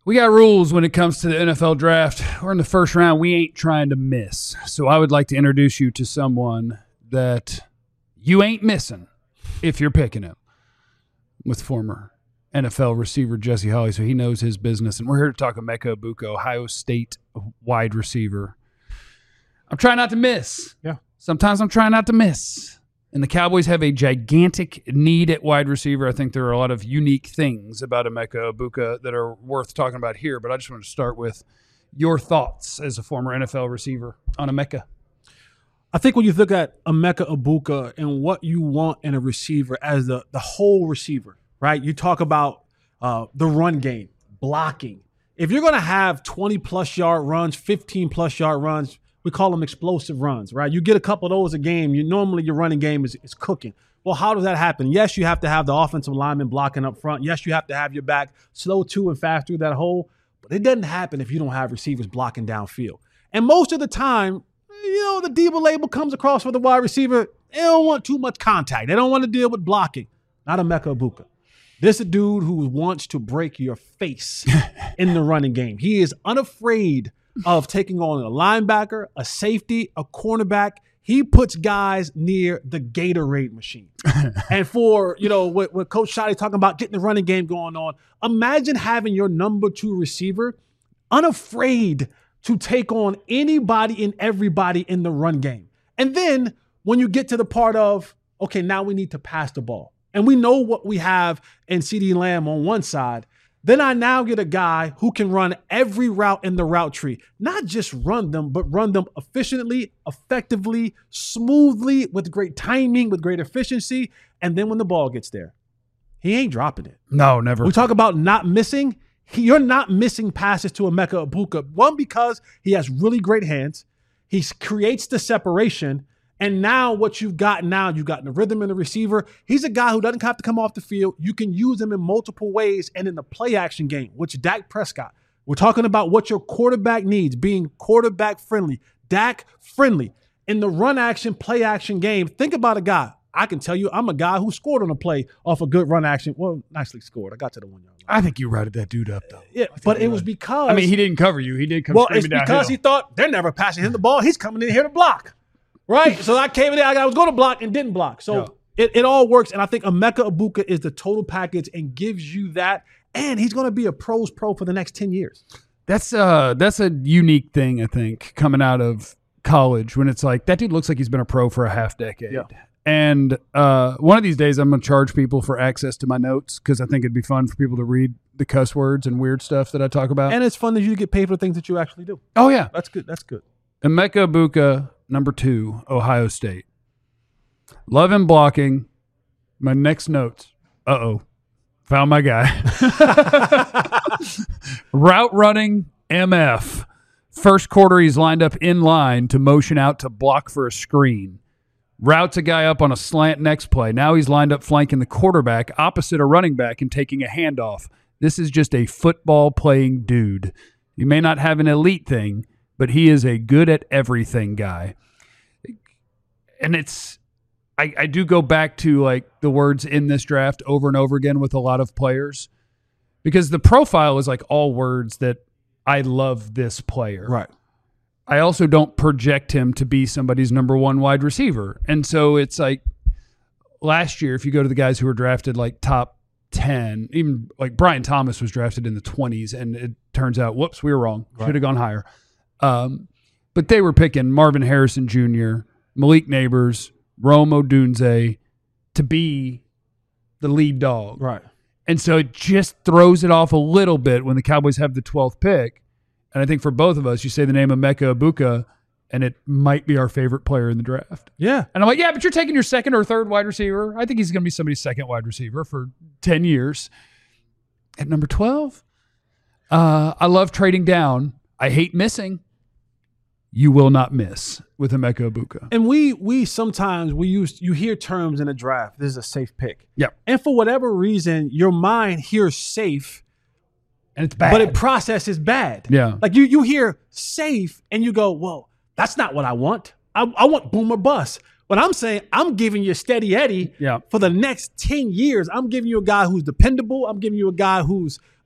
We got rules when it comes to the NFL draft. We're in the first round. We ain't trying to miss. So I would like to introduce you to someone that you ain't missing if you're picking him, with former NFL receiver Jesse Holley. So he knows his business. And we're here to talk Emeka Egbuka, Ohio State wide receiver. I'm trying not to miss. Yeah. Sometimes I'm trying not to miss. And the Cowboys have a gigantic need at wide receiver. I think there are a lot of unique things about Emeka Egbuka that are worth talking about here. But I just want to start with your thoughts as a former NFL receiver on Emeka. I think when you look at Emeka Egbuka and what you want in a receiver as the whole receiver, right? You talk about the run game, blocking. If you're going to have 20-plus yard runs, 15-plus yard runs, we call them explosive runs, right? You get a couple of those a game. Normally your running game is cooking. Well, how does that happen? Yes, you have to have the offensive lineman blocking up front. Yes, you have to have your back slow to and fast through that hole. But it doesn't happen if you don't have receivers blocking downfield. And most of the time, the Debo label comes across for the wide receiver. They don't want too much contact. They don't want to deal with blocking. Not Emeka Egbuka. This is a dude who wants to break your face in the running game. He is unafraid of taking on a linebacker, a safety, a cornerback. He puts guys near the Gatorade machine. And for, what Coach Shotty talking about getting the running game going on, imagine having your number 2 receiver unafraid to take on anybody and everybody in the run game. And then when you get to the part of, okay, now we need to pass the ball. And we know what we have in CeeDee Lamb on one side. Then I now get a guy who can run every route in the route tree. Not just run them, but run them efficiently, effectively, smoothly, with great timing, with great efficiency. And then when the ball gets there, he ain't dropping it. No, never. We talk about not missing. You're not missing passes to Emeka Egbuka. One, because he has really great hands. He creates the separation. And now what you've got the rhythm in the receiver. He's a guy who doesn't have to come off the field. You can use him in multiple ways and in the play action game, which Dak Prescott. We're talking about what your quarterback needs, being quarterback friendly, Dak friendly. In the run action, play action game, think about a guy. I can tell you I'm a guy who scored on a play off a good run action. Well, nicely scored. I got to the 1 yard line. I think you routed that dude up, though. Yeah, but it was because... he didn't cover you. He did come screaming downhill. Well, it's because he thought they're never passing him the ball. He's coming in here to block. Right? So I came in there, I was going to block and didn't block. So it all works. And I think Emeka Egbuka is the total package and gives you that. And he's going to be a pro's pro for the next 10 years. That's a unique thing, I think, coming out of college, when it's like, that dude looks like he's been a pro for a half decade. Yeah. And one of these days I'm going to charge people for access to my notes, because I think it'd be fun for people to read the cuss words and weird stuff that I talk about. And it's fun that you get paid for the things that you actually do. Oh, yeah. That's good. That's good. Emeka Egbuka, number 2, Ohio State. Love him blocking. My next notes. Found my guy. Route running, MF. First quarter, he's lined up in line to motion out to block for a screen. Routes a guy up on a slant next play. Now he's lined up flanking the quarterback opposite a running back and taking a handoff. This is just a football-playing dude. He may not have an elite thing, but he is a good at everything guy. And I do go back to like the words in this draft over and over again with a lot of players, because the profile is like all words that I love this player. Right. I also don't project him to be somebody's number 1 wide receiver. And so it's like last year, if you go to the guys who were drafted like top 10, even like Brian Thomas was drafted in the 20s, and it turns out, whoops, we were wrong. Right. Should have gone higher. But they were picking Marvin Harrison Jr., Malik Neighbors, Rome Odunze to be the lead dog. Right. And so it just throws it off a little bit when the Cowboys have the 12th pick. And I think for both of us, you say the name of Emeka Egbuka, and it might be our favorite player in the draft. Yeah. And I'm like, yeah, but you're taking your second or third wide receiver. I think he's going to be somebody's second wide receiver for 10 years. At number 12, I love trading down. I hate missing. You will not miss with Emeka Egbuka. And we sometimes you hear terms in a draft. This is a safe pick. Yeah. And for whatever reason, your mind hears safe, and it's bad, but it processes bad. Yeah. Like you hear safe and you go, well, that's not what I want. I want boom or bust. But I'm saying I'm giving you Steady Eddie for the next 10 years. I'm giving you a guy who's dependable. I'm giving you a guy who's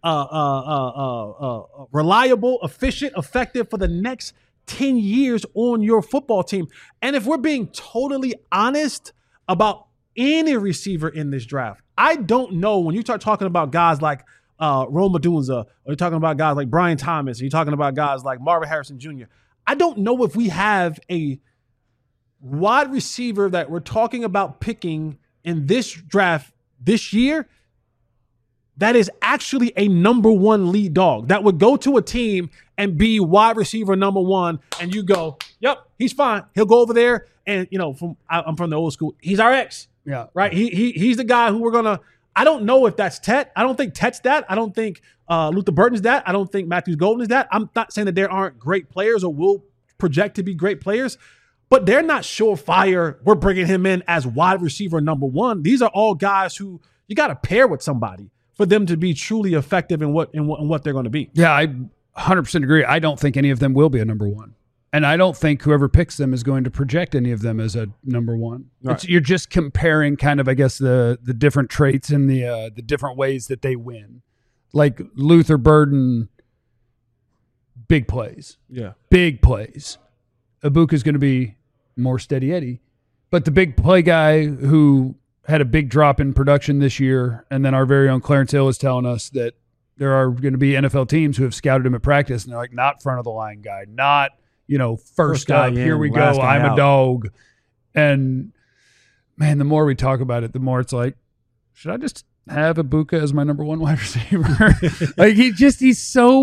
reliable, efficient, effective for the next 10 years on your football team. And if we're being totally honest about any receiver in this draft, I don't know when you start talking about guys like Rome Odunze, or you're talking about guys like Brian Thomas, or you're talking about guys like Marvin Harrison Jr., I don't know if we have a wide receiver that we're talking about picking in this draft this year that is actually a number one lead dog that would go to a team and be wide receiver number one, and you go, yep, he's fine. He'll go over there, and I'm from the old school. He's our ex, Yeah, right? He's the guy who we're gonna. I don't know if that's Tet. I don't think Tet's that. I don't think Luther Burton's that. I don't think Matthews Golden is that. I'm not saying that there aren't great players or will project to be great players, but they're not surefire. We're bringing him in as wide receiver number one. These are all guys who you got to pair with somebody for them to be truly effective in what they're going to be. Yeah, I 100% agree. I don't think any of them will be a number one. And I don't think whoever picks them is going to project any of them as a number one. Right. You're just comparing kind of, I guess, the different traits and the different ways that they win. Like Luther Burden, big plays. Yeah. Big plays. Ibuka's going to be more steady Eddie. But the big play guy who had a big drop in production this year, and then our very own Clarence Hill is telling us that there are going to be NFL teams who have scouted him at practice, and they're like, not front of the line guy, not, first guy up, in, here we go, last guy I'm out. a dog. And, man, the more we talk about it, the more it's like, should I just have Ibuka as my number one wide receiver? Like, he's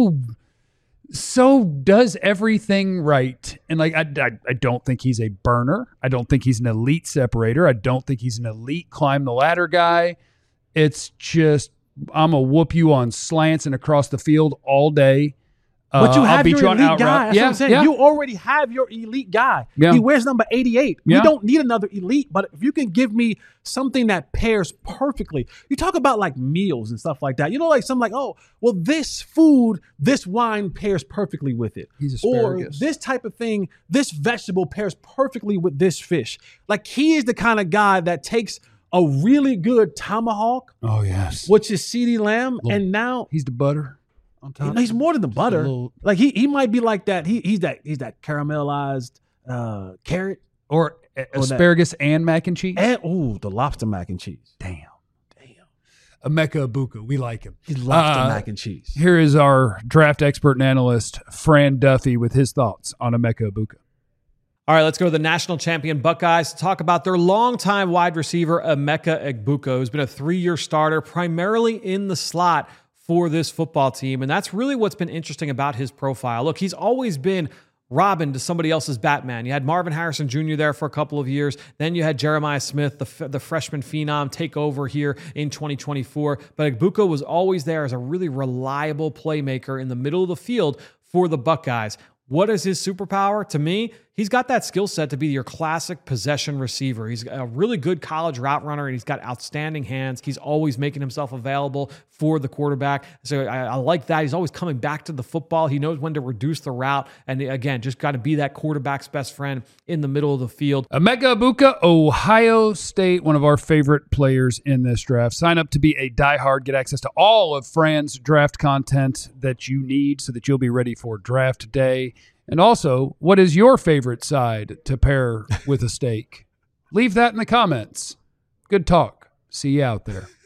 so does everything right. And like, I don't think he's a burner. I don't think he's an elite separator. I don't think he's an elite climb the ladder guy. It's just, I'm going to whoop you on slants and across the field all day. But you I'll have beat your you on elite out guy. route. That's what I'm saying. Yeah. You already have your elite guy. Yeah. He wears number 88. Yeah. We don't need another elite, but if you can give me something that pairs perfectly. You talk about like meals and stuff like that. Like something like, oh, well, this food, this wine pairs perfectly with it. He's asparagus. Or this type of thing, this vegetable pairs perfectly with this fish. Like he is the kind of guy that takes a really good tomahawk, Oh, yes. which is CeeDee Lamb, and now He's the butter on top. he's more than the butter. little- Like he might be like that. He's that caramelized carrot Or asparagus and mac and cheese. and the lobster mac and cheese. Damn. Emeka Ibuka. We like him. He's lobster mac and cheese. Here is our draft expert and analyst, Fran Duffy, with his thoughts on Emeka Ibuka. All right, let's go to the national champion Buckeyes to talk about their longtime wide receiver, Emeka Egbuka, who's been a 3-year starter primarily in the slot for this football team. And that's really what's been interesting about his profile. Look, he's always been Robin to somebody else's Batman. You had Marvin Harrison Jr. there for a couple of years. Then you had Jeremiah Smith, the freshman phenom, take over here in 2024. But Egbuka was always there as a really reliable playmaker in the middle of the field for the Buckeyes. What is his superpower? To me, he's got that skill set to be your classic possession receiver. He's a really good college route runner, and he's got outstanding hands. He's always making himself available for the quarterback. So I like that. He's always coming back to the football. He knows when to reduce the route. And again, just got to be that quarterback's best friend in the middle of the field. Emeka Ibuka, Ohio State, one of our favorite players in this draft. Sign up to be a diehard. Get access to all of Fran's draft content that you need so that you'll be ready for draft day. And also, what is your favorite side to pair with a steak? Leave that in the comments. Good talk. See you out there.